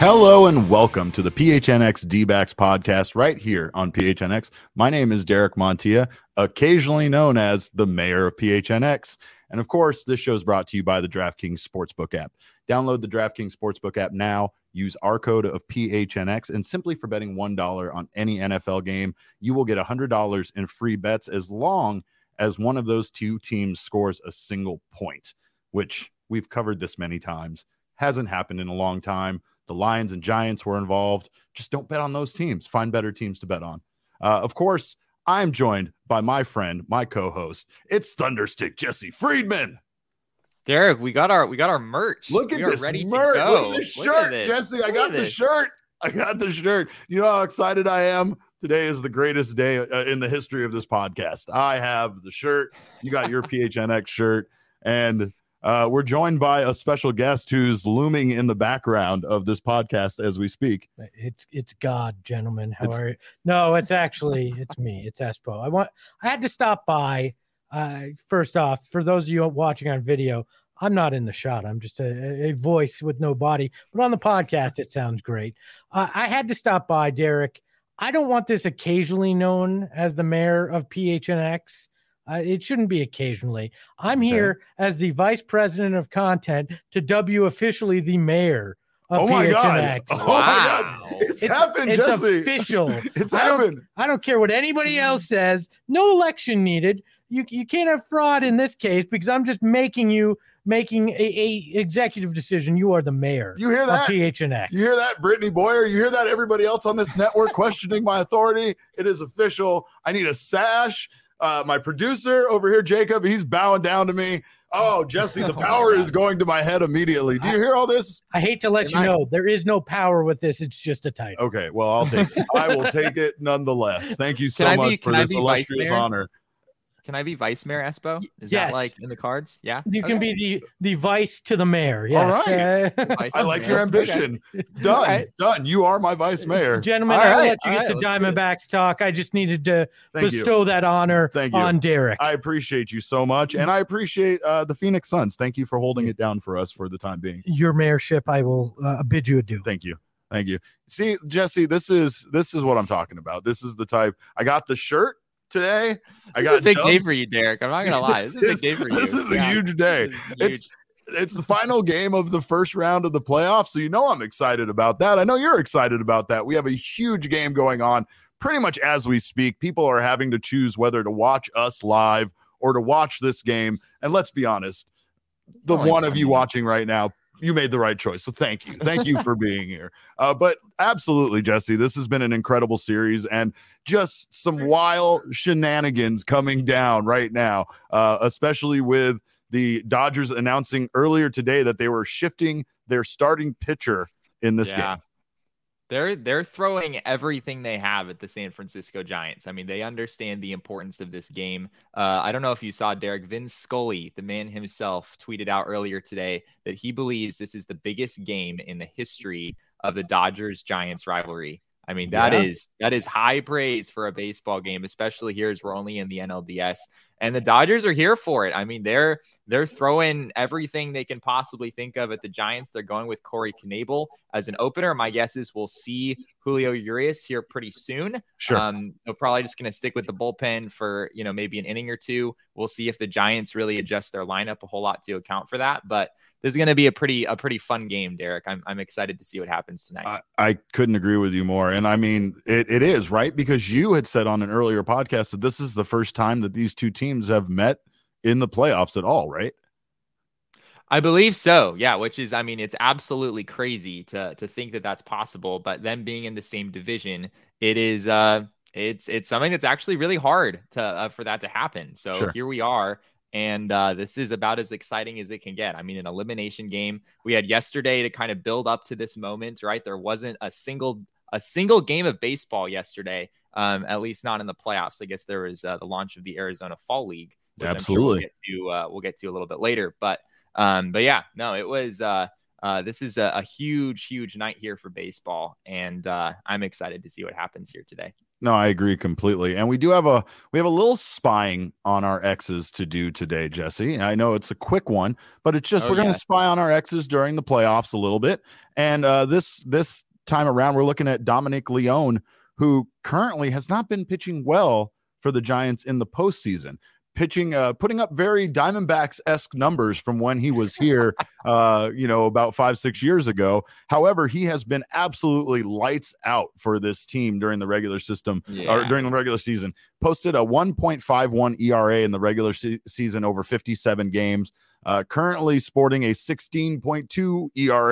Hello and welcome to the PHNX D-backs podcast right here on PHNX. My name is Derek Montilla, occasionally known as the mayor of PHNX. And of course, this show is brought to you by the DraftKings Sportsbook app. Download the DraftKings Sportsbook app now. Use our code of PHNX, and simply for betting $1 on any NFL game, you will get $100 in free bets as long as one of those two teams scores a single point, which we've covered this many times. Hasn't happened in a long time. The Lions and Giants were involved. Just don't bet on those teams. Find better teams to bet on. Of course, I'm joined by my friend, my co-host. It's Thunderstick Jesse Friedman. Derek, we got our merch. Look at this ready merch. To go. Look at this shirt, Jesse. I got the shirt. I got the shirt. You know how excited I am? Today is the greatest day in the history of this podcast. I have the shirt. You got your PHNX shirt. And we're joined by a special guest who's looming in the background of this podcast as we speak. It's God, gentlemen. How are you? No, it's me. It's Espo. I had to stop by. First off, for those of you watching on video, I'm not in the shot. I'm just a voice with no body. But on the podcast, it sounds great. I had to stop by, Derek. I don't want this occasionally known as the mayor of PHNX. It shouldn't be occasionally. I'm here as the vice president of content to dub officially the mayor of PHNX. Oh my God. It's happened, It's Jesse. official. It's happened. I don't care what anybody else says. No election needed. You can't have fraud in this case because I'm just making a executive decision. You are the mayor. You hear that? Of PHNX. You hear that, Brittany Boyer? You hear that, everybody else on this network questioning my authority? It is official. I need a sash. My producer over here, Jacob, he's bowing down to me. Oh, Jesse, the power is going to my head immediately. Do you hear all this? I hate to let you know, there is no power with this. It's just a title. Okay, well, I'll take it. I will take it nonetheless. Thank you so much for this illustrious honor. Can I be vice mayor, Espo? Is yes. that like in the cards? Yeah. You can be the vice to the mayor. Yes. All right. I like your ambition. Okay. Done. Right. Done. You are my vice mayor. Gentlemen, I'll let you get to Diamondbacks talk. I just needed to bestow that honor on Derek. I appreciate you so much. And I appreciate the Phoenix Suns. Thank you for holding it down for us for the time being. Your mayorship, I will bid you adieu. Thank you. Thank you. See, Jesse, this is what I'm talking about. This is the type. I got the shirt today. I got a big day for you, Derek. I'm not gonna lie. This is a big day for you. This is a huge day. It's the final game of the first round of the playoffs, so you know I'm excited about that. I know you're excited about that. We have a huge game going on pretty much as we speak. People are having to choose whether to watch us live or to watch this game. And let's be honest, the one of you watching right now, you made the right choice. So thank you. Thank you for being here. But absolutely, Jesse, this has been an incredible series and just some wild shenanigans coming down right now, especially with the Dodgers announcing earlier today that they were shifting their starting pitcher in this game. They're throwing everything they have at the San Francisco Giants. I mean, they understand the importance of this game. I don't know if you saw, Derek, Vin Scully, the man himself, tweeted out earlier today that he believes this is the biggest game in the history of the Dodgers-Giants rivalry. I mean, that is high praise for a baseball game, especially here as we're only in the NLDS. And the Dodgers are here for it. I mean, they're throwing everything they can possibly think of at the Giants. They're going with Corey Knebel as an opener. My guess is we'll see Julio Urias here pretty soon. Sure. They're probably just going to stick with the bullpen for, maybe an inning or two. We'll see if the Giants really adjust their lineup a whole lot to account for that. But this is going to be a pretty fun game, Derek. I'm excited to see what happens tonight. I couldn't agree with you more. And I mean, it is, right? Because you had said on an earlier podcast that this is the first time that these two teams have met in the playoffs at all, right? I believe so. Yeah. Which is, I mean, it's absolutely crazy to think that that's possible, but them being in the same division, it is, it's something that's actually really hard for that to happen. So sure. Here we are. And this is about as exciting as it can get. I mean, an elimination game we had yesterday to kind of build up to this moment, right? There wasn't a single game of baseball yesterday, at least not in the playoffs. I guess there was the launch of the Arizona Fall League. Absolutely. We'll get to a little bit later. But yeah, no, it was this is a huge night here for baseball. And I'm excited to see what happens here today. No, I agree completely. And we have a little spying on our exes to do today, Jesse. I know it's a quick one, but it's just we're going to spy on our exes during the playoffs a little bit. And this time around, we're looking at Dominic Leone, who currently has not been pitching well for the Giants in the postseason. Putting up very Diamondbacks-esque numbers from when he was here, about 5-6 years ago. However, he has been absolutely lights out for this team during the regular season. Posted a 1.51 ERA in the regular season over 57 games. Currently sporting a 16.2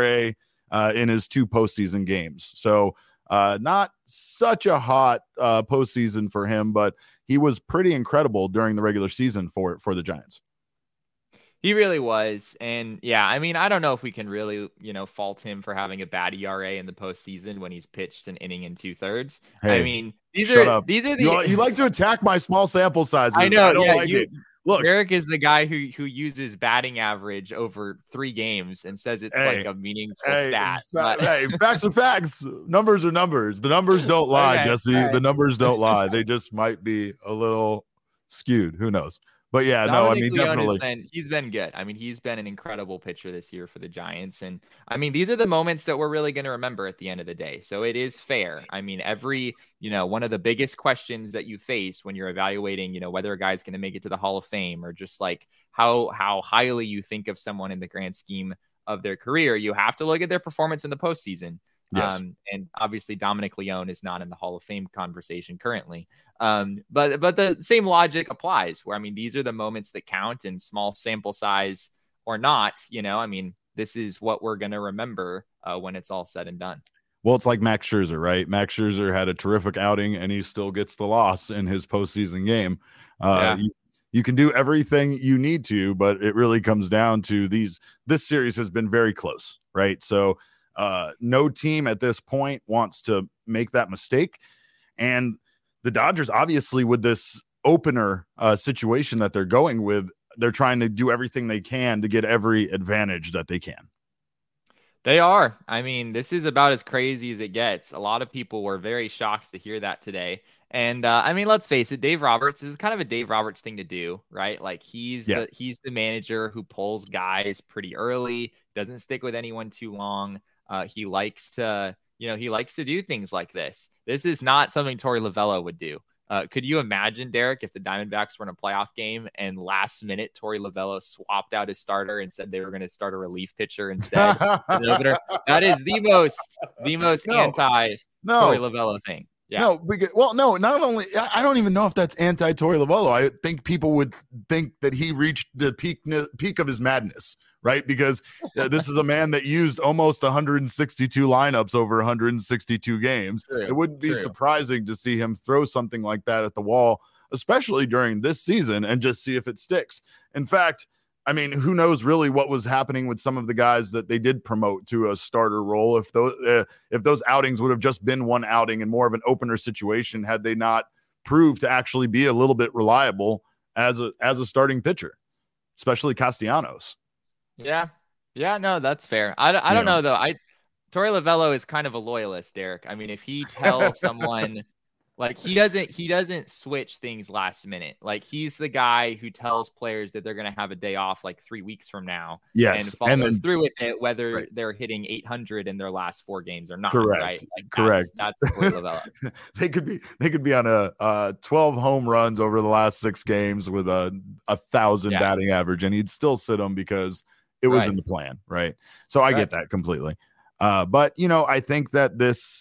ERA in his 2 postseason games. So not such a hot postseason for him, but he was pretty incredible during the regular season for the Giants. He really was. And yeah, I mean, I don't know if we can really, fault him for having a bad ERA in the postseason when he's pitched an inning and 2/3. Hey, I mean, these are the you like to attack my small sample sizes. I know. I don't like it. Look, Eric is the guy who uses batting average over 3 games and says it's like a meaningful stat. Facts are facts. Numbers are numbers. The numbers don't lie, okay, Jesse. Right. The numbers don't lie. They just might be a little skewed. Who knows? But yeah, Dominic Leone definitely. He's been good. I mean, he's been an incredible pitcher this year for the Giants. And I mean, these are the moments that we're really going to remember at the end of the day. So it is fair. I mean, one of the biggest questions that you face when you're evaluating, whether a guy's going to make it to the Hall of Fame or just like how highly you think of someone in the grand scheme of their career, you have to look at their performance in the postseason. Yes. And obviously Dominic Leone is not in the Hall of Fame conversation currently. But the same logic applies where, I mean, these are the moments that count, and small sample size or not, I mean, this is what we're going to remember when it's all said and done. Well, it's like Max Scherzer, right? Max Scherzer had a terrific outing and he still gets the loss in his postseason game. You can do everything you need to, but it really comes down to this series has been very close, right? So no team at this point wants to make that mistake. And the Dodgers, obviously, with this opener situation that they're going with, they're trying to do everything they can to get every advantage that they can. They are. I mean, this is about as crazy as it gets. A lot of people were very shocked to hear that today. And I mean, let's face it, Dave Roberts is kind of a Dave Roberts thing to do, right? Like he's the manager who pulls guys pretty early, doesn't stick with anyone too long. He likes to do things like this. This is not something Torey Lovullo would do. Could you imagine, Derek, if the Diamondbacks were in a playoff game and last minute Torey Lovullo swapped out his starter and said they were going to start a relief pitcher instead? That is the most anti Torey Lovullo thing. Yeah. No, not only, I don't even know if that's anti-Torey Lovullo. I think people would think that he reached the peak of his madness, right? Because this is a man that used almost 162 lineups over 162 games. True, it wouldn't be surprising to see him throw something like that at the wall, especially during this season, and just see if it sticks. In fact, I mean, who knows really what was happening with some of the guys that they did promote to a starter role. If those outings would have just been one outing and more of an opener situation, had they not proved to actually be a little bit reliable as a starting pitcher, especially Castellanos. Yeah, no, that's fair. I don't know though. Torey Lovullo is kind of a loyalist, Derek. I mean, if he tells someone. Like he doesn't switch things last minute. Like he's the guy who tells players that they're going to have a day off like 3 weeks from now. Yes. And follows through with it, whether they're hitting 800 in their last 4 games or not. Correct. Right? Like correct. That's Torey Lovullo. They could be on a 12 home runs over the last 6 games with a 1,000 batting average, and he'd still sit them because it was in the plan. Right. So I get that completely. But I think that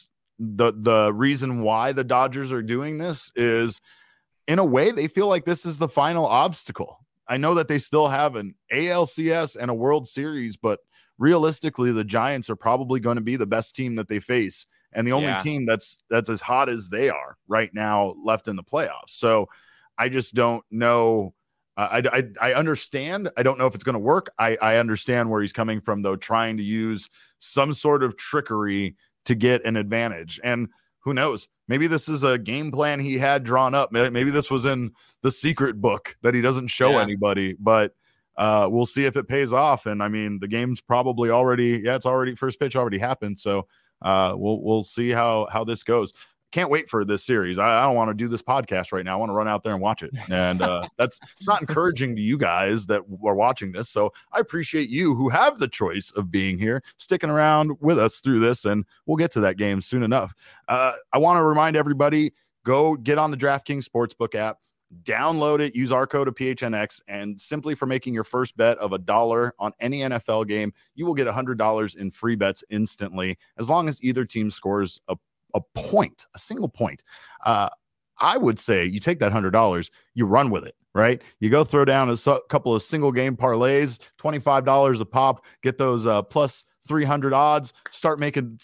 the reason why the Dodgers are doing this is, in a way, they feel like this is the final obstacle. I know that they still have an ALCS and a World Series, but realistically, the Giants are probably going to be the best team that they face, and the only team that's as hot as they are right now left in the playoffs. So I just don't know. I understand. I don't know if it's going to work. I understand where he's coming from, though, trying to use some sort of trickery to get an advantage. And who knows, maybe this is a game plan he had drawn up. Maybe this was in the secret book that he doesn't show anybody, but we'll see if it pays off. And I mean, the game's probably already, it's already, first pitch already happened. So we'll see how this goes. can't wait for this series. I don't want to do this podcast right now. I want to run out there and watch it. And it's not encouraging to you guys that are watching this. So I appreciate you who have the choice of being here, sticking around with us through this, and we'll get to that game soon enough. I want to remind everybody, go get on the DraftKings Sportsbook app, download it, use our code of PHNX, and simply for making your first bet of $1 on any NFL game, you will get $100 in free bets instantly, as long as either team scores a point, a single point. I would say you take that $100, you run with it, right? You go throw down a couple of single game parlays, $25 a pop, get those plus 300 odds, start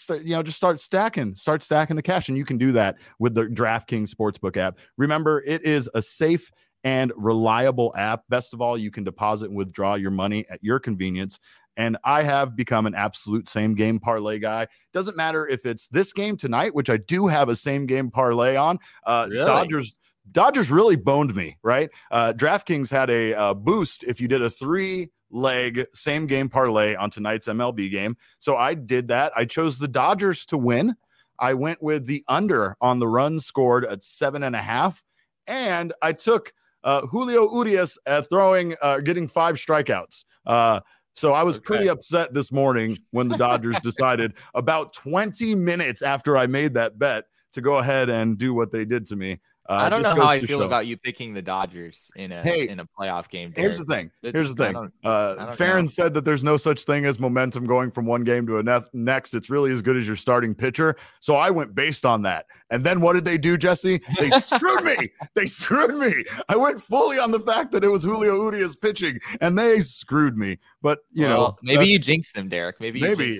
stacking the cash. And you can do that with the DraftKings Sportsbook app. Remember, it is a safe and reliable app. Best of all, you can deposit and withdraw your money at your convenience. And I have become an absolute same game parlay guy. Doesn't matter if it's this game tonight, which I do have a same game parlay on. Really? Dodgers really boned me, right? DraftKings had a boost if you did a 3-leg same game parlay on tonight's MLB game. So I did that. I chose the Dodgers to win. I went with the under on the runs scored at 7.5. And I took Julio Urias at getting 5 strikeouts. So I was pretty upset this morning when the Dodgers decided about 20 minutes after I made that bet to go ahead and do what they did to me. I don't know how I feel about you picking the Dodgers in a playoff game. Here's the thing. Farron said that there's no such thing as momentum going from one game to a next. It's really as good as your starting pitcher. So I went based on that. And then what did they do, Jesse? They screwed me. They screwed me. I went fully on the fact that it was Julio Urias pitching, and they screwed me. But maybe you jinxed them, Derek. Maybe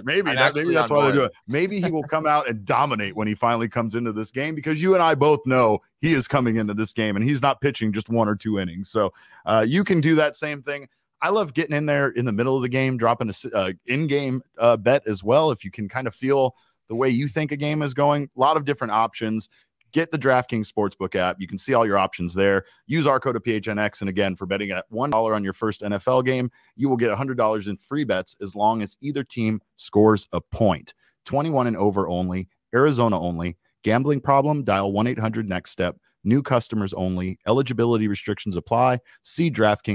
that's why they do it. Maybe he will come out and dominate when he finally comes into this game, because you and I both know he is coming into this game and he's not pitching just 1 or 2 innings. So you can do that same thing. I love getting in there in the middle of the game, dropping a in-game bet as well. If you can kind of feel the way you think a game is going, a lot of different options. Get the DraftKings Sportsbook app. You can see all your options there. Use our code of PHNX. And again, for betting at $1 on your first NFL game, you will get $100 in free bets as long as either team scores a point. 21 and over only. Arizona only. Gambling problem? Dial 1-800-NEXT-STEP. New customers only. Eligibility restrictions apply. See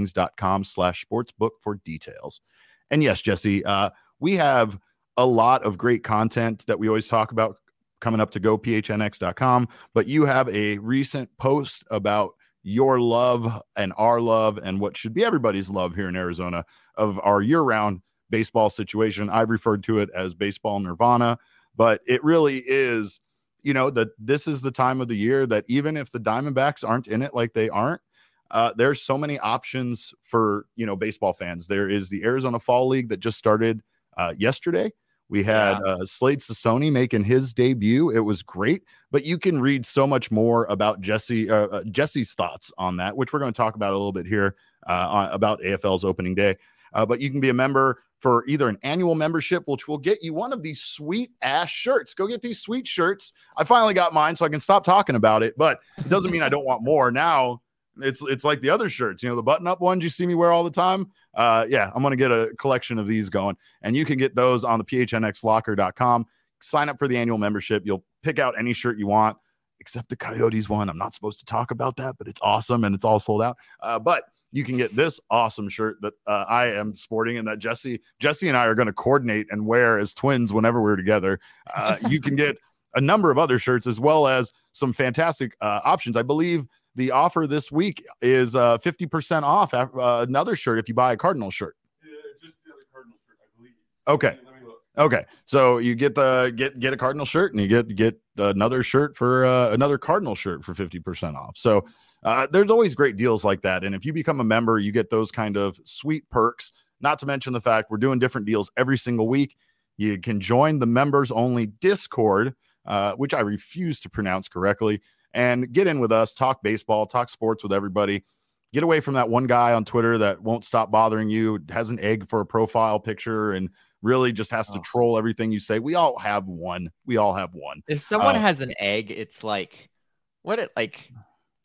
DraftKings.com/sportsbook for details. And yes, Jesse, we have a lot of great content that we always talk about coming up to gophnx.com, but you have a recent post about your love and our love and what should be everybody's love here in Arizona of our year-round baseball situation. I've referred to it as baseball nirvana, but it really is, that this is the time of the year that even if the Diamondbacks aren't in it like they aren't, there's so many options for, baseball fans. There is the Arizona Fall League that just started yesterday. We had Slade Sassoni making his debut. It was great, but you can read so much more about Jesse's thoughts on that, which we're going to talk about a little bit here about AFL's opening day. But you can be a member for either an annual membership, which will get you one of these sweet ass shirts. Go get these sweet shirts. I finally got mine, so I can stop talking about it, but it doesn't mean I don't want more. Now it's like the other shirts, the button-up ones you see me wear all the time. I'm going to get a collection of these going, and you can get those on the phnxlocker.com. Sign up for the annual membership. You'll pick out any shirt you want, except the Coyotes one. I'm not supposed to talk about that, but it's awesome, and it's all sold out. But you can get this awesome shirt that I am sporting and that Jesse and I are going to coordinate and wear as twins whenever we're together. You can get a number of other shirts as well as some fantastic options. I believe the offer this week is 50% off another shirt if you buy a Cardinal shirt. Yeah, just the other Cardinal shirt, I believe. Okay. Okay. So you get a Cardinal shirt and you get another shirt for another Cardinal shirt for 50% off. So there's always great deals like that. And if you become a member, you get those kind of sweet perks, not to mention the fact we're doing different deals every single week. You can join the members only Discord, which I refuse to pronounce correctly, and get in with us, talk baseball, talk sports with everybody. Get away from that one guy on Twitter that won't stop bothering you, has an egg for a profile picture, and really just has to troll everything you say. We all have one. If someone has an egg, it's like,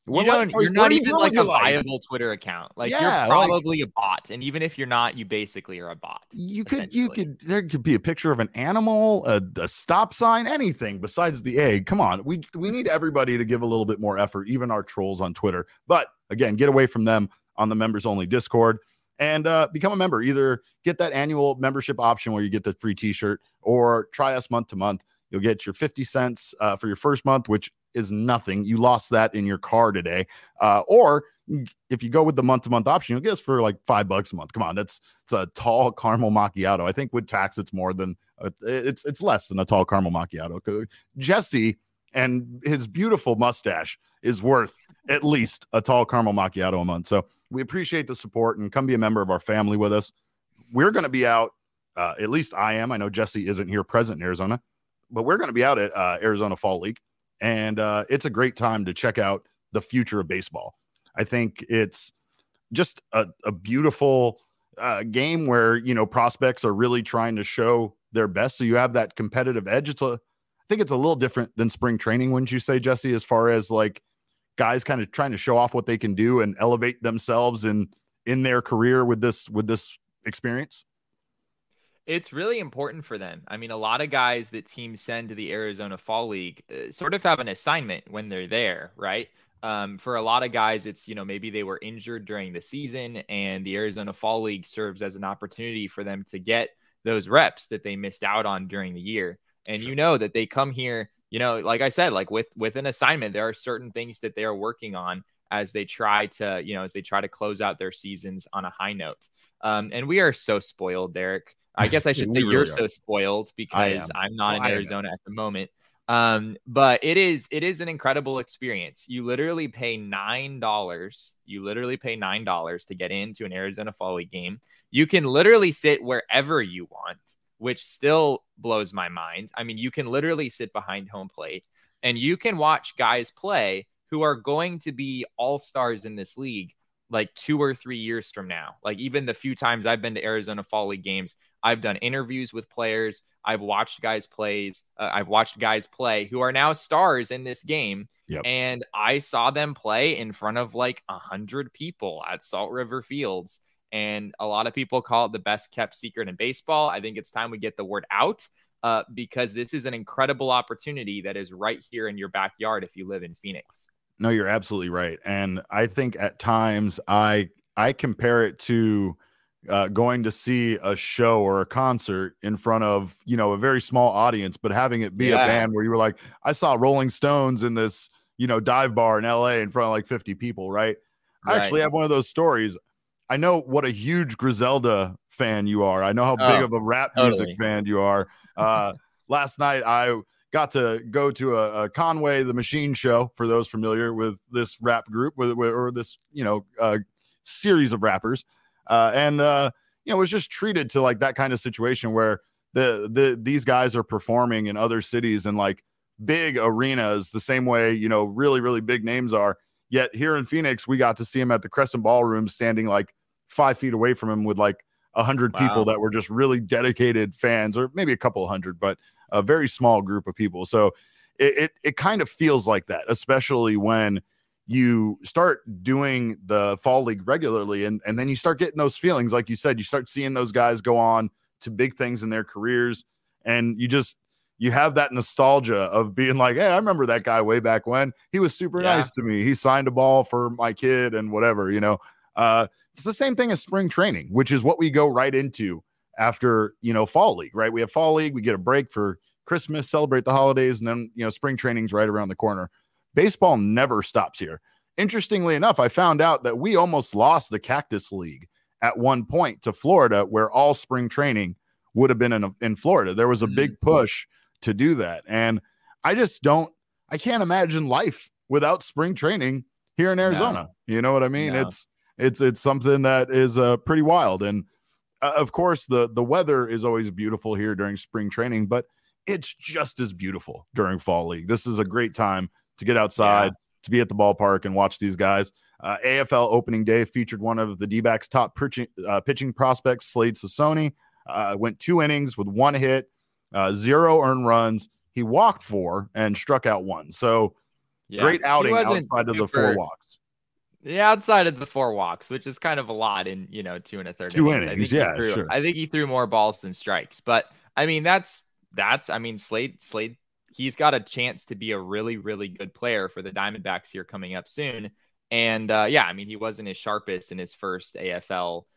You're not even like a viable Twitter account. Like you're probably a bot. And even if you're not, you basically are a bot. There could be a picture of an animal, a stop sign, anything besides the egg. Come on. We need everybody to give a little bit more effort, even our trolls on Twitter. But again, get away from them on the members only Discord and become a member. Either get that annual membership option where you get the free t-shirt, or try us month to month. You'll get your 50 cents for your first month, which is nothing. You lost that in your car today. Or if you go with the month-to-month option, you'll get us for like $5 a month. Come on, it's a tall caramel macchiato. I think with tax, it's more than it's less than a tall caramel macchiato. Jesse and his beautiful mustache is worth at least a tall caramel macchiato a month. So we appreciate the support, and come be a member of our family with us. We're going to be out. At least I am. I know Jesse isn't here present in Arizona, but we're going to be out at Arizona Fall League. And it's a great time to check out the future of baseball. I think it's just a beautiful game where, prospects are really trying to show their best. So you have that competitive edge. I think it's a little different than spring training, wouldn't you say, Jesse, as far as like guys kind of trying to show off what they can do and elevate themselves in their career with this experience? It's really important for them. I mean, a lot of guys that teams send to the Arizona Fall League sort of have an assignment when they're there, right? For a lot of guys, it's, maybe they were injured during the season, and the Arizona Fall League serves as an opportunity for them to get those reps that they missed out on during the year. And sure. That they come here, like I said, like with an assignment, there are certain things that they are working on as they try to close out their seasons on a high note. And we are so spoiled, Derek. I guess I should say you're so spoiled because I'm not in Arizona at the moment. But it is an incredible experience. You literally pay $9. To get into an Arizona Fall League game. You can literally sit wherever you want, which still blows my mind. I mean, you can literally sit behind home plate, and you can watch guys play who are going to be all-stars in this league like 2 or 3 years from now. Like, even the few times I've been to Arizona Fall League games, I've done interviews with players. I've watched guys play who are now stars in this game. Yep. And I saw them play in front of like 100 people at Salt River Fields. And a lot of people call it the best kept secret in baseball. I think it's time we get the word out because this is an incredible opportunity that is right here in your backyard if you live in Phoenix. No, you're absolutely right. And I think at times I compare it to going to see a show or a concert in front of, a very small audience, but having it be a band where you were like, I saw Rolling Stones in this, dive bar in LA in front of like 50 people. Right. I actually have one of those stories. I know what a huge Griselda fan you are. I know how big of a rap music fan you are. Last night, I got to go to a Conway the Machine show, for those familiar with this rap group or this, series of rappers. Was just treated to like that kind of situation where these guys are performing in other cities and like big arenas the same way, really, really big names are. Yet here in Phoenix, we got to see him at the Crescent Ballroom standing like 5 feet away from him with like 100 people that were just really dedicated fans, or maybe a couple hundred, but a very small group of people. So it kind of feels like that, especially when you start doing the Fall League regularly, and then you start getting those feelings. Like you said, you start seeing those guys go on to big things in their careers, and you have that nostalgia of being like, hey, I remember that guy way back when. He was super nice to me. He signed a ball for my kid and whatever, It's the same thing as spring training, which is what we go right into after, Fall League, right? We have Fall League, we get a break for Christmas, celebrate the holidays, and then, spring training's right around the corner. Baseball never stops here. Interestingly enough, I found out that we almost lost the Cactus League at one point to Florida, where all spring training would have been in Florida. There was a big push to do that. And I can't imagine life without spring training here in Arizona. No. You know what I mean? No. It's something that is pretty wild. And of course the weather is always beautiful here during spring training, but it's just as beautiful during Fall League. This is a great time to get outside, to be at the ballpark and watch these guys. AFL opening day featured one of the D-backs' top pitching prospects, Slade Sassoni. Went 2 innings with 1 hit, 0 earned runs. He walked 4 and struck out 1. So Yeah. Great outing He wasn't outside of the super- 4 walks. Yeah, outside of the 4 walks, which is kind of a lot in 2 1/3 2 innings. innings, yeah, sure. I think he threw more balls than strikes. But I mean, that's Slade. He's got a chance to be a really, really good player for the Diamondbacks here coming up soon. And yeah, I mean, he wasn't his sharpest in his first AFL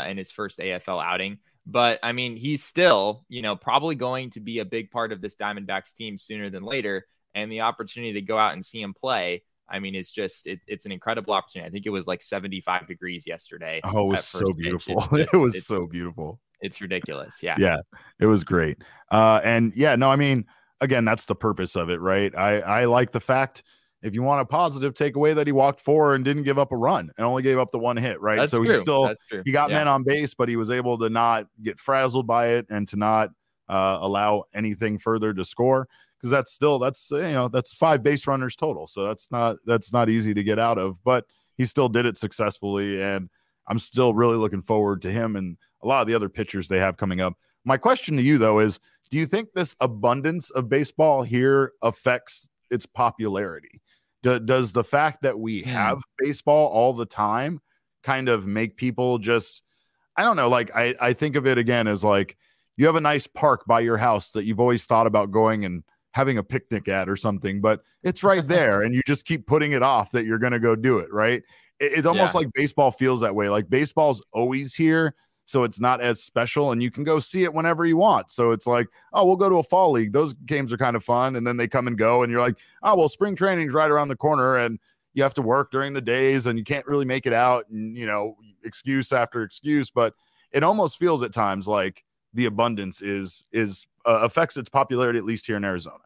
outing. But I mean, he's still, probably going to be a big part of this Diamondbacks team sooner than later. And the opportunity to go out and see him play, I mean, it's just it's an incredible opportunity. I think it was like 75 degrees yesterday. Oh, it was so beautiful. It was so beautiful. It's ridiculous. Yeah. Yeah, it was great. And yeah, no, I mean, again, that's the purpose of it, right? I like the fact, if you want a positive takeaway, that he walked 4 and didn't give up a run and only gave up the 1 hit, right? That's so true. He got men on base, but he was able to not get frazzled by it and to not allow anything further to score. Because that's 5 base runners total. So that's not easy to get out of, but he still did it successfully. And I'm still really looking forward to him and a lot of the other pitchers they have coming up. My question to you, though, is do you think this abundance of baseball here affects its popularity? Does the fact that we have baseball all the time kind of make people just, I don't know, like I think of it again as like you have a nice park by your house that you've always thought about going and having a picnic at or something, but it's right there and you just keep putting it off that you're going to go do it. Right. It's almost like baseball feels that way. Like baseball's always here. So it's not as special and you can go see it whenever you want. So it's like, oh, we'll go to a fall league. Those games are kind of fun. And then they come and go and you're like, oh, well, spring training's right around the corner and you have to work during the days and you can't really make it out and, excuse after excuse, but it almost feels at times like the abundance is affects its popularity, at least here in Arizona.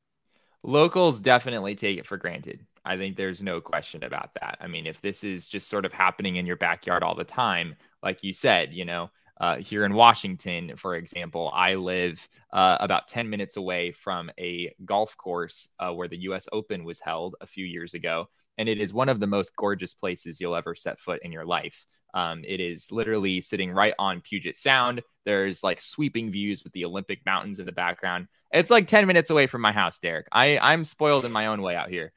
Locals definitely take it for granted. I think there's no question about that. I mean, if this is just sort of happening in your backyard all the time, like you said, here in Washington, for example, I live about 10 minutes away from a golf course where the U.S. Open was held a few years ago. And it is one of the most gorgeous places you'll ever set foot in your life. It is literally sitting right on Puget Sound. There's like sweeping views with the Olympic Mountains in the background. It's like 10 minutes away from my house, Derek. I'm spoiled in my own way out here.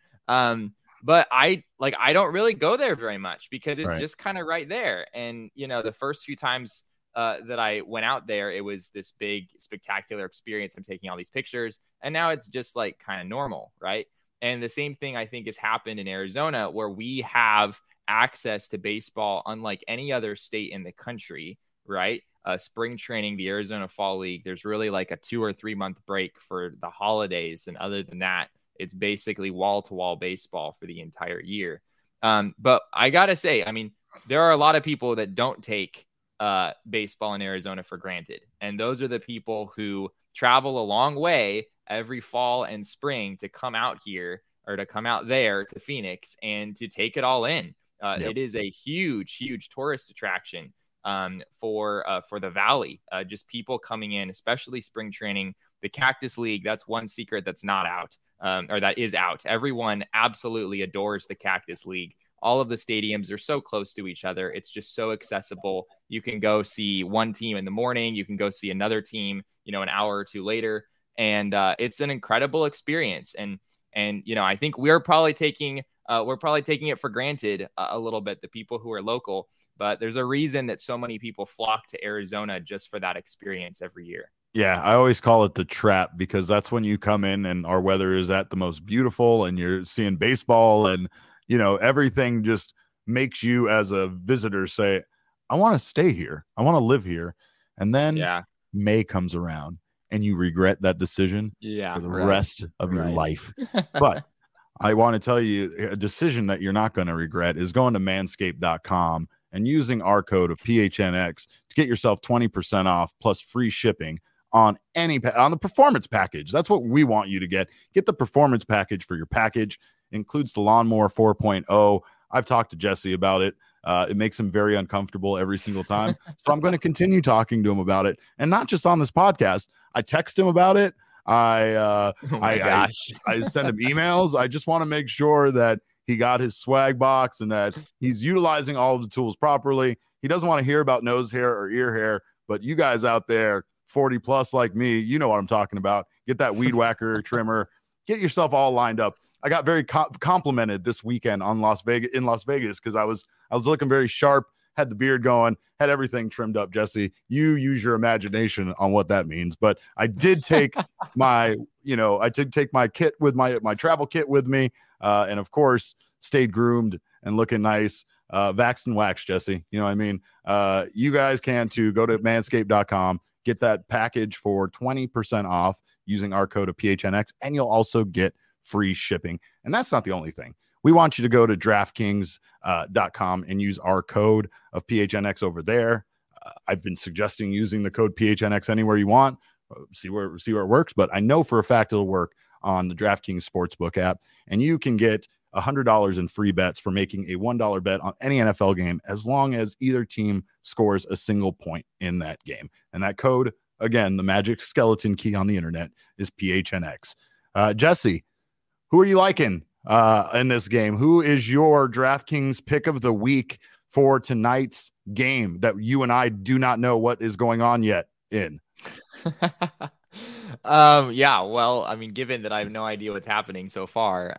But I don't really go there very much because it's just kind of right there. And, the first few times that I went out there, it was this big, spectacular experience. I'm taking all these pictures and now it's just like kind of normal. Right. And the same thing I think has happened in Arizona where we have access to baseball unlike any other state in the country, right? Spring training, the Arizona Fall League, there's really like a 2 or 3 month break for the holidays. And other than that, it's basically wall-to-wall baseball for the entire year. But I got to say, I mean, there are a lot of people that don't take baseball in Arizona for granted. And those are the people who travel a long way every fall and spring to come out here or to come out there to Phoenix and to take it all in. It is a huge, huge tourist attraction for the Valley. Just people coming in, especially spring training. The Cactus League, that's one secret that's not out, or that is out. Everyone absolutely adores the Cactus League. All of the stadiums are so close to each other. It's just so accessible. You can go see one team in the morning. You can go see another team, an hour or two later. And it's an incredible experience. And I think we're probably taking it for granted a little bit, the people who are local, but there's a reason that so many people flock to Arizona just for that experience every year. Yeah, I always call it the trap because that's when you come in and our weather is at the most beautiful and you're seeing baseball and, everything just makes you as a visitor say, I want to stay here. I want to live here. And then May comes around and you regret that decision for the rest of your life. But I want to tell you a decision that you're not going to regret is going to manscaped.com and using our code of PHNX to get yourself 20% off plus free shipping on on the performance package. That's what we want you to get. Get the performance package for your package. It includes the Lawnmower 4.0. I've talked to Jesse about it. It makes him very uncomfortable every single time. So I'm going to continue talking to him about it. And not just on this podcast. I text him about it. I send him emails. I just want to make sure that he got his swag box and that he's utilizing all of the tools properly. He doesn't want to hear about nose hair or ear hair, but you guys out there, 40 plus like me, you know what I'm talking about. Get that weed whacker trimmer, get yourself all lined up. got very complimented this weekend in Las Vegas because I was looking very sharp, had the beard going, had everything trimmed up. Jesse, you use your imagination on what that means, but I did take my kit with my travel kit with me, and of course stayed groomed and looking nice, vaxxed and waxed. Jesse, you know what I mean? You guys can too. Go to manscaped.com, get that package for 20% off using our code of PHNX, and you'll also get free shipping. And that's not the only thing. We want you to go to DraftKings.com and use our code of PHNX over there. I've been suggesting using the code PHNX anywhere you want. See where it works, but I know for a fact it'll work on the DraftKings Sportsbook app, and you can get $100 in free bets for making a $1 bet on any NFL game as long as either team scores a single point in that game. And that code, again, the magic skeleton key on the internet, is PHNX. Jesse, who are you liking in this game? Who is your DraftKings pick of the week for tonight's game that you and I do not know what is going on yet in? Yeah, well, I mean, given that I have no idea what's happening so far,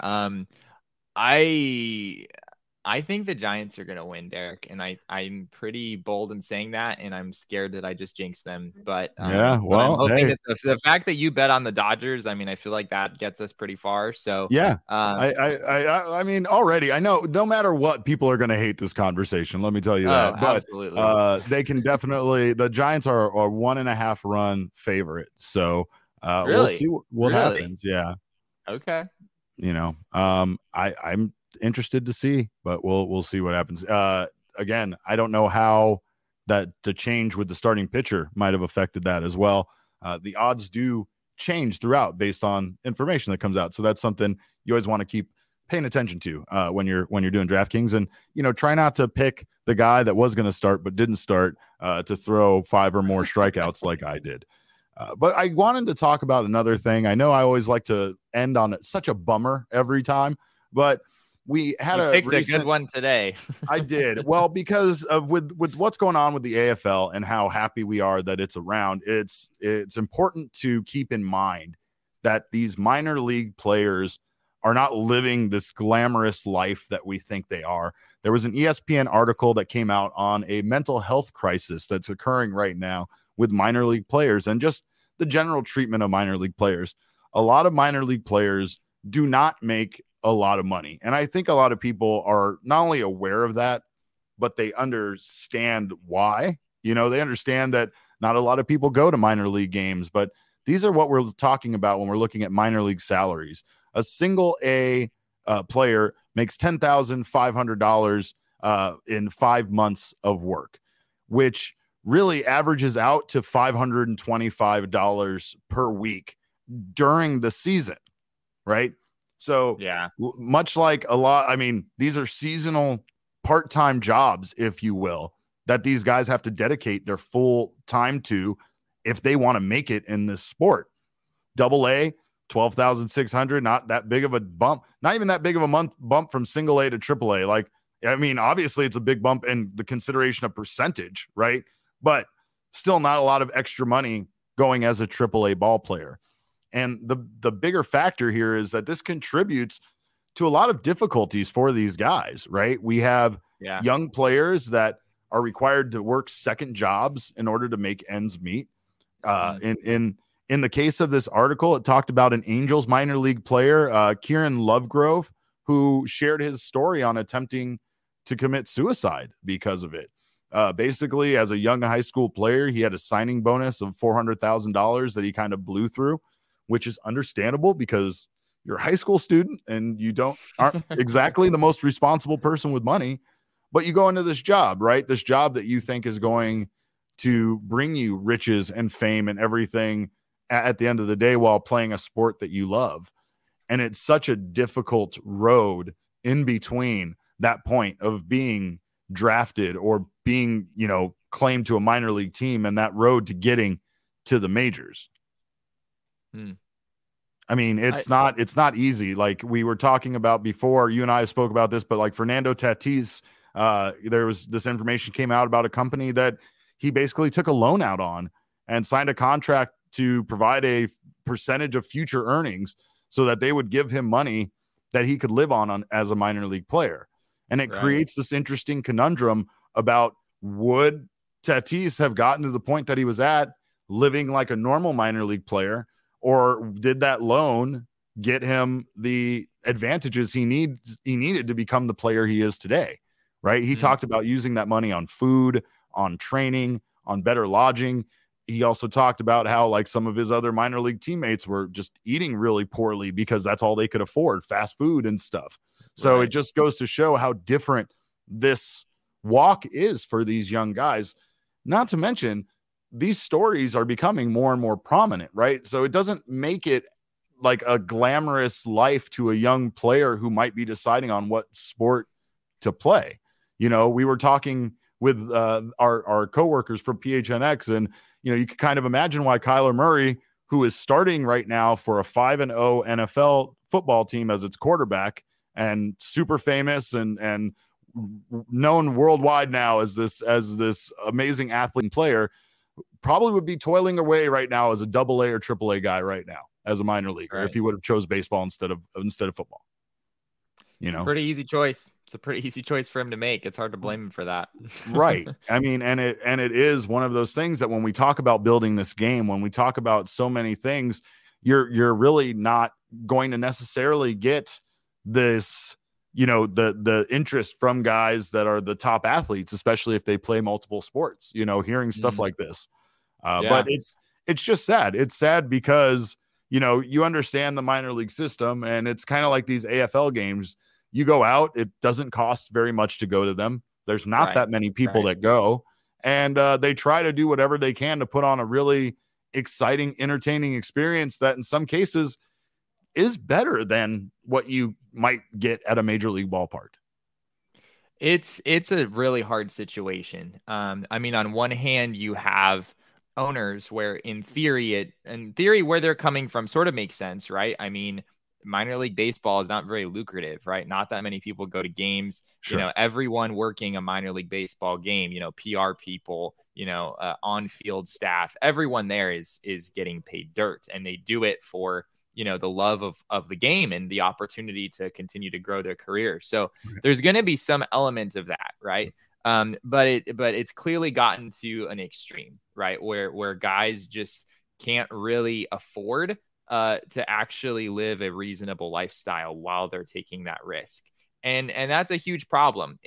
I think the Giants are going to win, Derek, and I'm pretty bold in saying that, and I'm scared that I just jinxed them. But yeah, well, I'm hoping that the fact that you bet on the Dodgers, I mean, I feel like that gets us pretty far. So yeah, I mean, already I know no matter what, people are going to hate this conversation. Let me tell you that. But absolutely. They can definitely. The Giants are a 1.5 run favorite, so Really? We'll see what happens. Yeah. Okay. You know, I'm interested to see, but we'll see what happens. Again, I don't know how that the change with the starting pitcher might have affected that as well. The odds do change throughout based on information that comes out, so that's something you always want to keep paying attention to when you're doing DraftKings, and try not to pick the guy that was going to start but didn't start to throw 5 or more strikeouts like I did. But I wanted to talk about another thing. I know I always like to end on such a bummer every time, but we had a good one today. I did. Well, because of with what's going on with the AFL and how happy we are that it's around, it's important to keep in mind that these minor league players are not living this glamorous life that we think they are. There was an ESPN article that came out on a mental health crisis that's occurring right now with minor league players and just the general treatment of minor league players. A lot of minor league players do not make a lot of money. And I think a lot of people are not only aware of that, but they understand why. They understand that not a lot of people go to minor league games, but these are what we're talking about when we're looking at minor league salaries. A single A player makes $10,500 in 5 months of work, which really averages out to $525 per week during the season, right? So yeah, much like a lot, I mean, these are seasonal part-time jobs, if you will, that these guys have to dedicate their full time to if they want to make it in this sport. Double A, 12,600, not that big of a bump, not even that big of a bump from single A to triple A. Like, I mean, obviously it's a big bump in the consideration of percentage, right? But still not a lot of extra money going as a AAA ball player. And the bigger factor here is that this contributes to a lot of difficulties for these guys, right? We have young players that are required to work second jobs in order to make ends meet. In the case of this article, it talked about an Angels minor league player, Kieran Lovegrove, who shared his story on attempting to commit suicide because of it. Basically, as a young high school player, he had a signing bonus of $400,000 that he kind of blew through, which is understandable because you're a high school student and you aren't exactly the most responsible person with money, but you go into this job, right? This job that you think is going to bring you riches and fame and everything at the end of the day while playing a sport that you love. And it's such a difficult road in between that point of being drafted or being, claimed to a minor league team and that road to getting to the majors. I mean, it's not easy. Like we were talking about before, you and I spoke about this, but like Fernando Tatis, there was this information came out about a company that he basically took a loan out on and signed a contract to provide a percentage of future earnings so that they would give him money that he could live on as a minor league player. And it creates this interesting conundrum about, would Tatis have gotten to the point that he was at living like a normal minor league player, or did that loan get him the advantages he needed to become the player he is today? Right. He talked about using that money on food, on training, on better lodging. He also talked about how like some of his other minor league teammates were just eating really poorly because that's all they could afford, fast food and stuff. So it just goes to show how different this walk is for these young guys. Not to mention, these stories are becoming more and more prominent, right? So it doesn't make it like a glamorous life to a young player who might be deciding on what sport to play. You know, we were talking with our coworkers from PHNX, and, you know, you can kind of imagine why Kyler Murray, who is starting right now for a 5-0 NFL football team as its quarterback, and super famous and known worldwide now as this amazing athlete and player, probably would be toiling away right now as a AA or AAA guy right now as a minor leaguer, if he would have chose baseball instead of football. You know, pretty easy choice. It's a pretty easy choice for him to make. It's hard to blame him for that. Right. I mean, and it is one of those things that when we talk about building this game, when we talk about so many things, you're really not going to necessarily get this, you know, the interest from guys that are the top athletes, especially if they play multiple sports, you know, hearing stuff like this. But it's just sad. It's sad because, you know, you understand the minor league system, and it's kind of like these AFL games. You go out, it doesn't cost very much to go to them. There's not that many people that go, and they try to do whatever they can to put on a really exciting, entertaining experience that in some cases is better than what you might get at a major league ballpark. It's a really hard situation. I mean, on one hand, you have owners where in theory where they're coming from sort of makes sense, right? I mean, minor league baseball is not very lucrative, right? Not that many people go to games. Sure. You know, everyone working a minor league baseball game, you know, PR people, you know, on-field staff, everyone there is getting paid dirt, and they do it for, you know, the love of the game and the opportunity to continue to grow their career. So there's going to be some element of that, right? But it's clearly gotten to an extreme, right? Where guys just can't really afford to actually live a reasonable lifestyle while they're taking that risk. And that's a huge problem.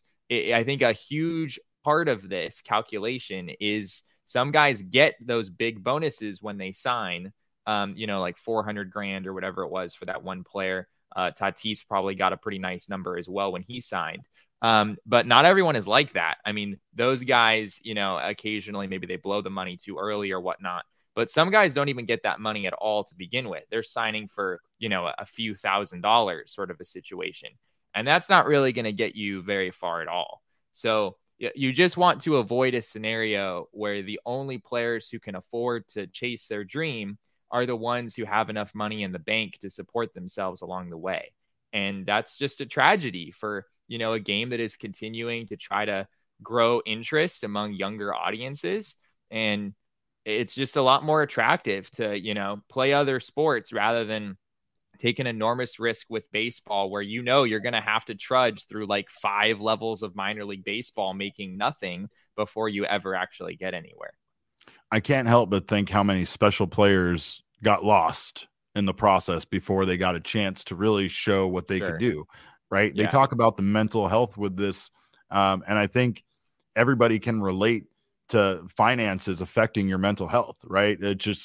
I think a huge part of this calculation is some guys get those big bonuses when they sign, you know, like $400,000 or whatever it was for that one player. Tatis probably got a pretty nice number as well when he signed. But not everyone is like that. I mean, those guys, you know, occasionally maybe they blow the money too early or whatnot. But some guys don't even get that money at all to begin with. They're signing for, you know, a few $1,000s sort of a situation. And that's not really going to get you very far at all. So you just want to avoid a scenario where the only players who can afford to chase their dream are the ones who have enough money in the bank to support themselves along the way. And that's just a tragedy for, you know, a game that is continuing to try to grow interest among younger audiences. And it's just a lot more attractive to, you know, play other sports rather than take an enormous risk with baseball, where, you know, you're going to have to trudge through like 5 levels of minor league baseball, making nothing before you ever actually get anywhere. I can't help but think how many special players got lost in the process before they got a chance to really show what they could do. Right. Yeah. They talk about the mental health with this. And I think everybody can relate to finances affecting your mental health, right?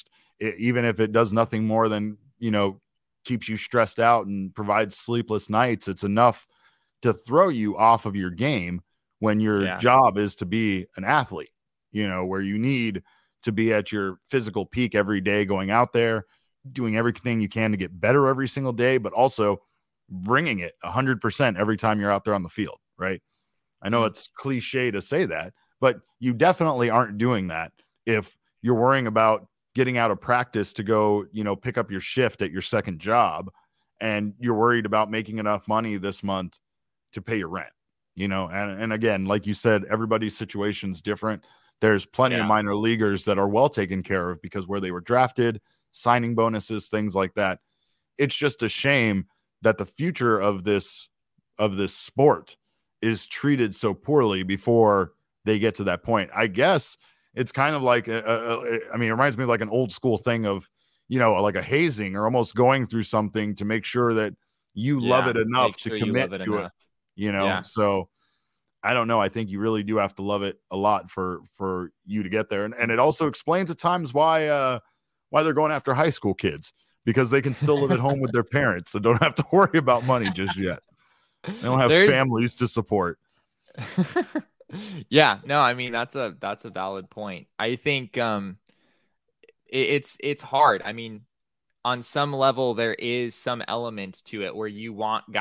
Even if it does nothing more than, you know, keeps you stressed out and provides sleepless nights, it's enough to throw you off of your game when your job is to be an athlete, you know, where you need to be at your physical peak every day, going out there, doing everything you can to get better every single day, but also bringing it 100% every time you're out there on the field, right? I know it's cliche to say that, but you definitely aren't doing that if you're worrying about getting out of practice to go, you know, pick up your shift at your second job, and you're worried about making enough money this month to pay your rent, you know? And again, like you said, everybody's situation's different. There's plenty of minor leaguers that are well taken care of because where they were drafted, signing bonuses, things like that. It's just a shame that the future of this sport is treated so poorly before they get to that point. I guess it's kind of like, it reminds me of like an old school thing of, like a hazing or almost going through something to make sure that you love it enough to commit to it, Yeah. So I don't know. I think you really do have to love it a lot for you to get there. And it also explains at times why they're going after high school kids, because they can still live at home with their parents and don't have to worry about money just yet. They don't have families to support. Yeah, no, I mean, that's a valid point. I think it's hard. I mean, on some level, there is some element to it where you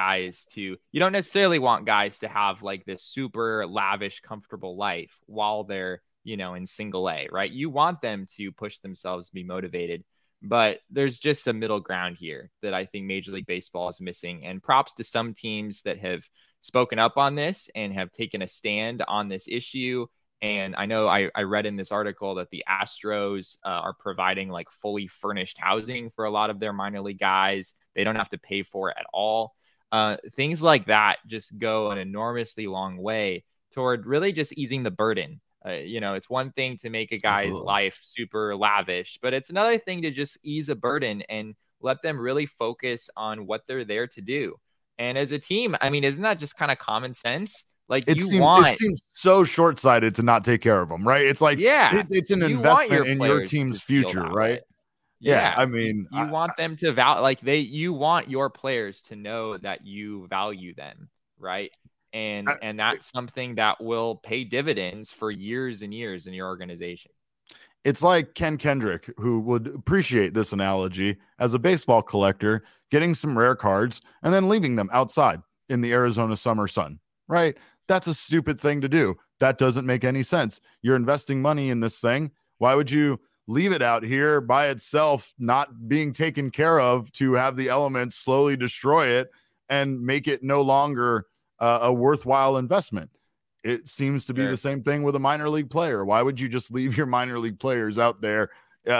don't necessarily want guys to have like this super lavish, comfortable life while they're, in single A, right? You want them to push themselves, to be motivated, but there's just a middle ground here that I think Major League Baseball is missing. And props to some teams that have spoken up on this and have taken a stand on this issue. And I know I read in this article that the Astros are providing like fully furnished housing for a lot of their minor league guys. They don't have to pay for it at all. Things like that just go an enormously long way toward really just easing the burden. It's one thing to make a guy's life super lavish, but it's another thing to just ease a burden and let them really focus on what they're there to do. And as a team, I mean, isn't that just kind of common sense? Like it seems so short-sighted to not take care of them, right? It's like, it's an investment in your team's future, right? Yeah. I mean, you want them to you want your players to know that you value them, right? And that's something that will pay dividends for years and years in your organization. It's like Ken Kendrick, who would appreciate this analogy, as a baseball collector, getting some rare cards and then leaving them outside in the Arizona summer sun, right? That's a stupid thing to do. That doesn't make any sense. You're investing money in this thing. Why would you leave it out here by itself, not being taken care of, to have the elements slowly destroy it and make it no longer a worthwhile investment? It seems to be the same thing with a minor league player. Why would you just leave your minor league players out there,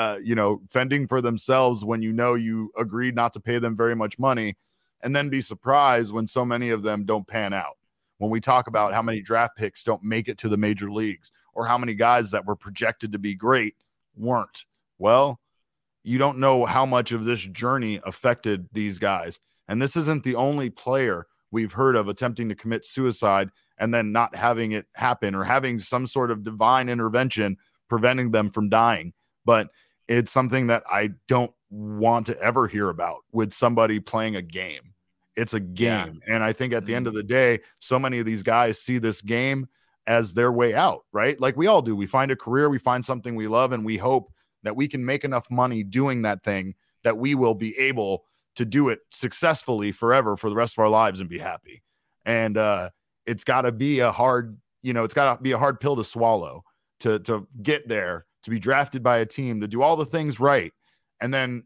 fending for themselves when you agreed not to pay them very much money, and then be surprised when so many of them don't pan out? When we talk about how many draft picks don't make it to the major leagues, or how many guys that were projected to be great weren't. Well, you don't know how much of this journey affected these guys. And this isn't the only player we've heard of attempting to commit suicide and then not having it happen, or having some sort of divine intervention preventing them from dying. But it's something that I don't want to ever hear about with somebody playing a game. It's a game. Yeah. And I think at the end of the day, so many of these guys see this game as their way out, right? Like we all do. We find a career, we find something we love, and we hope that we can make enough money doing that thing that we will be able to do it successfully forever for the rest of our lives and be happy. And it's got to be a hard pill to swallow to get there, to be drafted by a team, to do all the things right, and then,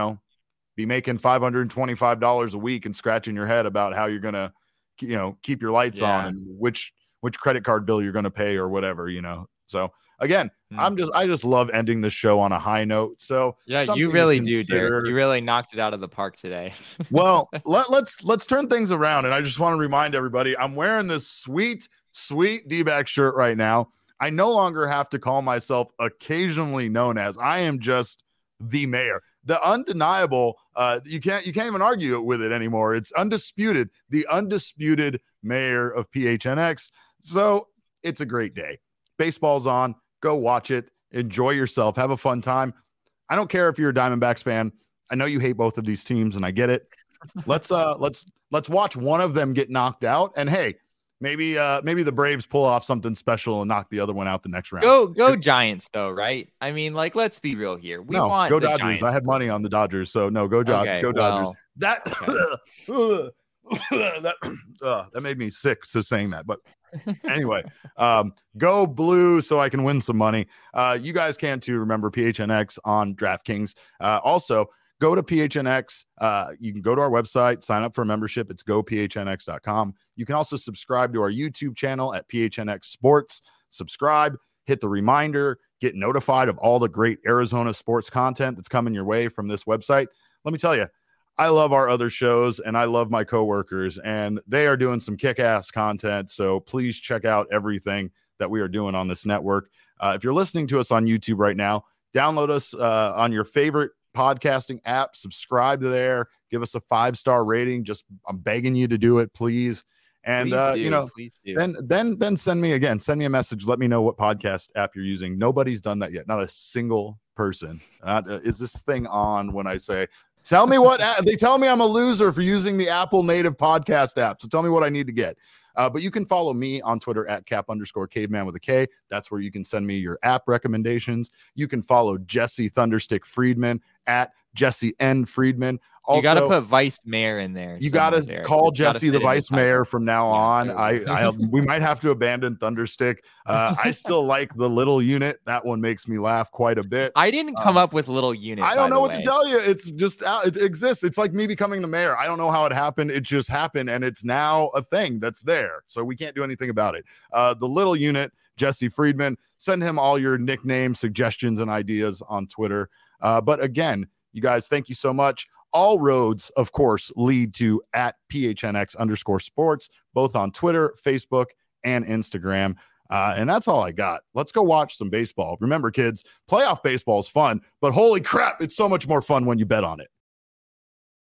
be making $525 a week and scratching your head about how you're going to, keep your lights on, and which credit card bill you're going to pay or whatever, So again, I just love ending the show on a high note. So yeah, you really do, Derek. You really knocked it out of the park today. Well, let's turn things around. And I just want to remind everybody, I'm wearing this sweet D-back shirt right now. I no longer have to call myself occasionally known as. I am just the mayor. The undeniable, you can't even argue with it anymore. It's undisputed, the undisputed mayor of PHNX. So it's a great day. Baseball's on. Go watch it. Enjoy yourself. Have a fun time. I don't care if you're a Diamondbacks fan. I know you hate both of these teams, and I get it. Let's watch one of them get knocked out. And hey, maybe the Braves pull off something special and knock the other one out the next round. Go Giants, though, right? I mean, let's be real here. Go Dodgers. Giants. I had money on the Dodgers, so no, go Dodgers. Okay, go Dodgers. That made me sick. So saying that, but anyway, go blue so I can win some money. You guys can too. Remember PHNX on DraftKings. Also, go to PHNX. You can go to our website, sign up for a membership. It's gophnx.com. You can also subscribe to our YouTube channel at PHNX Sports. Subscribe, hit the reminder, get notified of all the great Arizona sports content that's coming your way from this website. Let me tell you, I love our other shows and I love my coworkers, and they are doing some kick-ass content. So please check out everything that we are doing on this network. If you're listening to us on YouTube right now, download us on your favorite podcasting app, subscribe to there, give us a 5-star rating. I'm begging you to do it, please. And please do. Then send me a message. Let me know what podcast app you're using. Nobody's done that yet. Not a single person. Is this thing on when I say, tell me what they tell me I'm a loser for using the Apple native podcast app. So tell me what I need to get. But you can follow me on Twitter at @cap_caveman with a K. That's where you can send me your app recommendations. You can follow Jesse Thunderstick Friedman at Jesse N. Friedman. Also, you got to put vice mayor in there. You got to call Jesse the vice mayor from now on. We might have to abandon Thunderstick. I still like the little unit. That one makes me laugh quite a bit. I didn't come up with little unit. I don't know what to tell you. It's just it exists. It's like me becoming the mayor. I don't know how it happened. It just happened, and it's now a thing that's there. So we can't do anything about it. The little unit, Jesse Friedman. Send him all your nickname suggestions and ideas on Twitter. But again, you guys, thank you so much. All roads, of course, lead to @PHNX_sports, both on Twitter, Facebook, and Instagram. And that's all I got. Let's go watch some baseball. Remember, kids, playoff baseball is fun, but holy crap, it's so much more fun when you bet on it.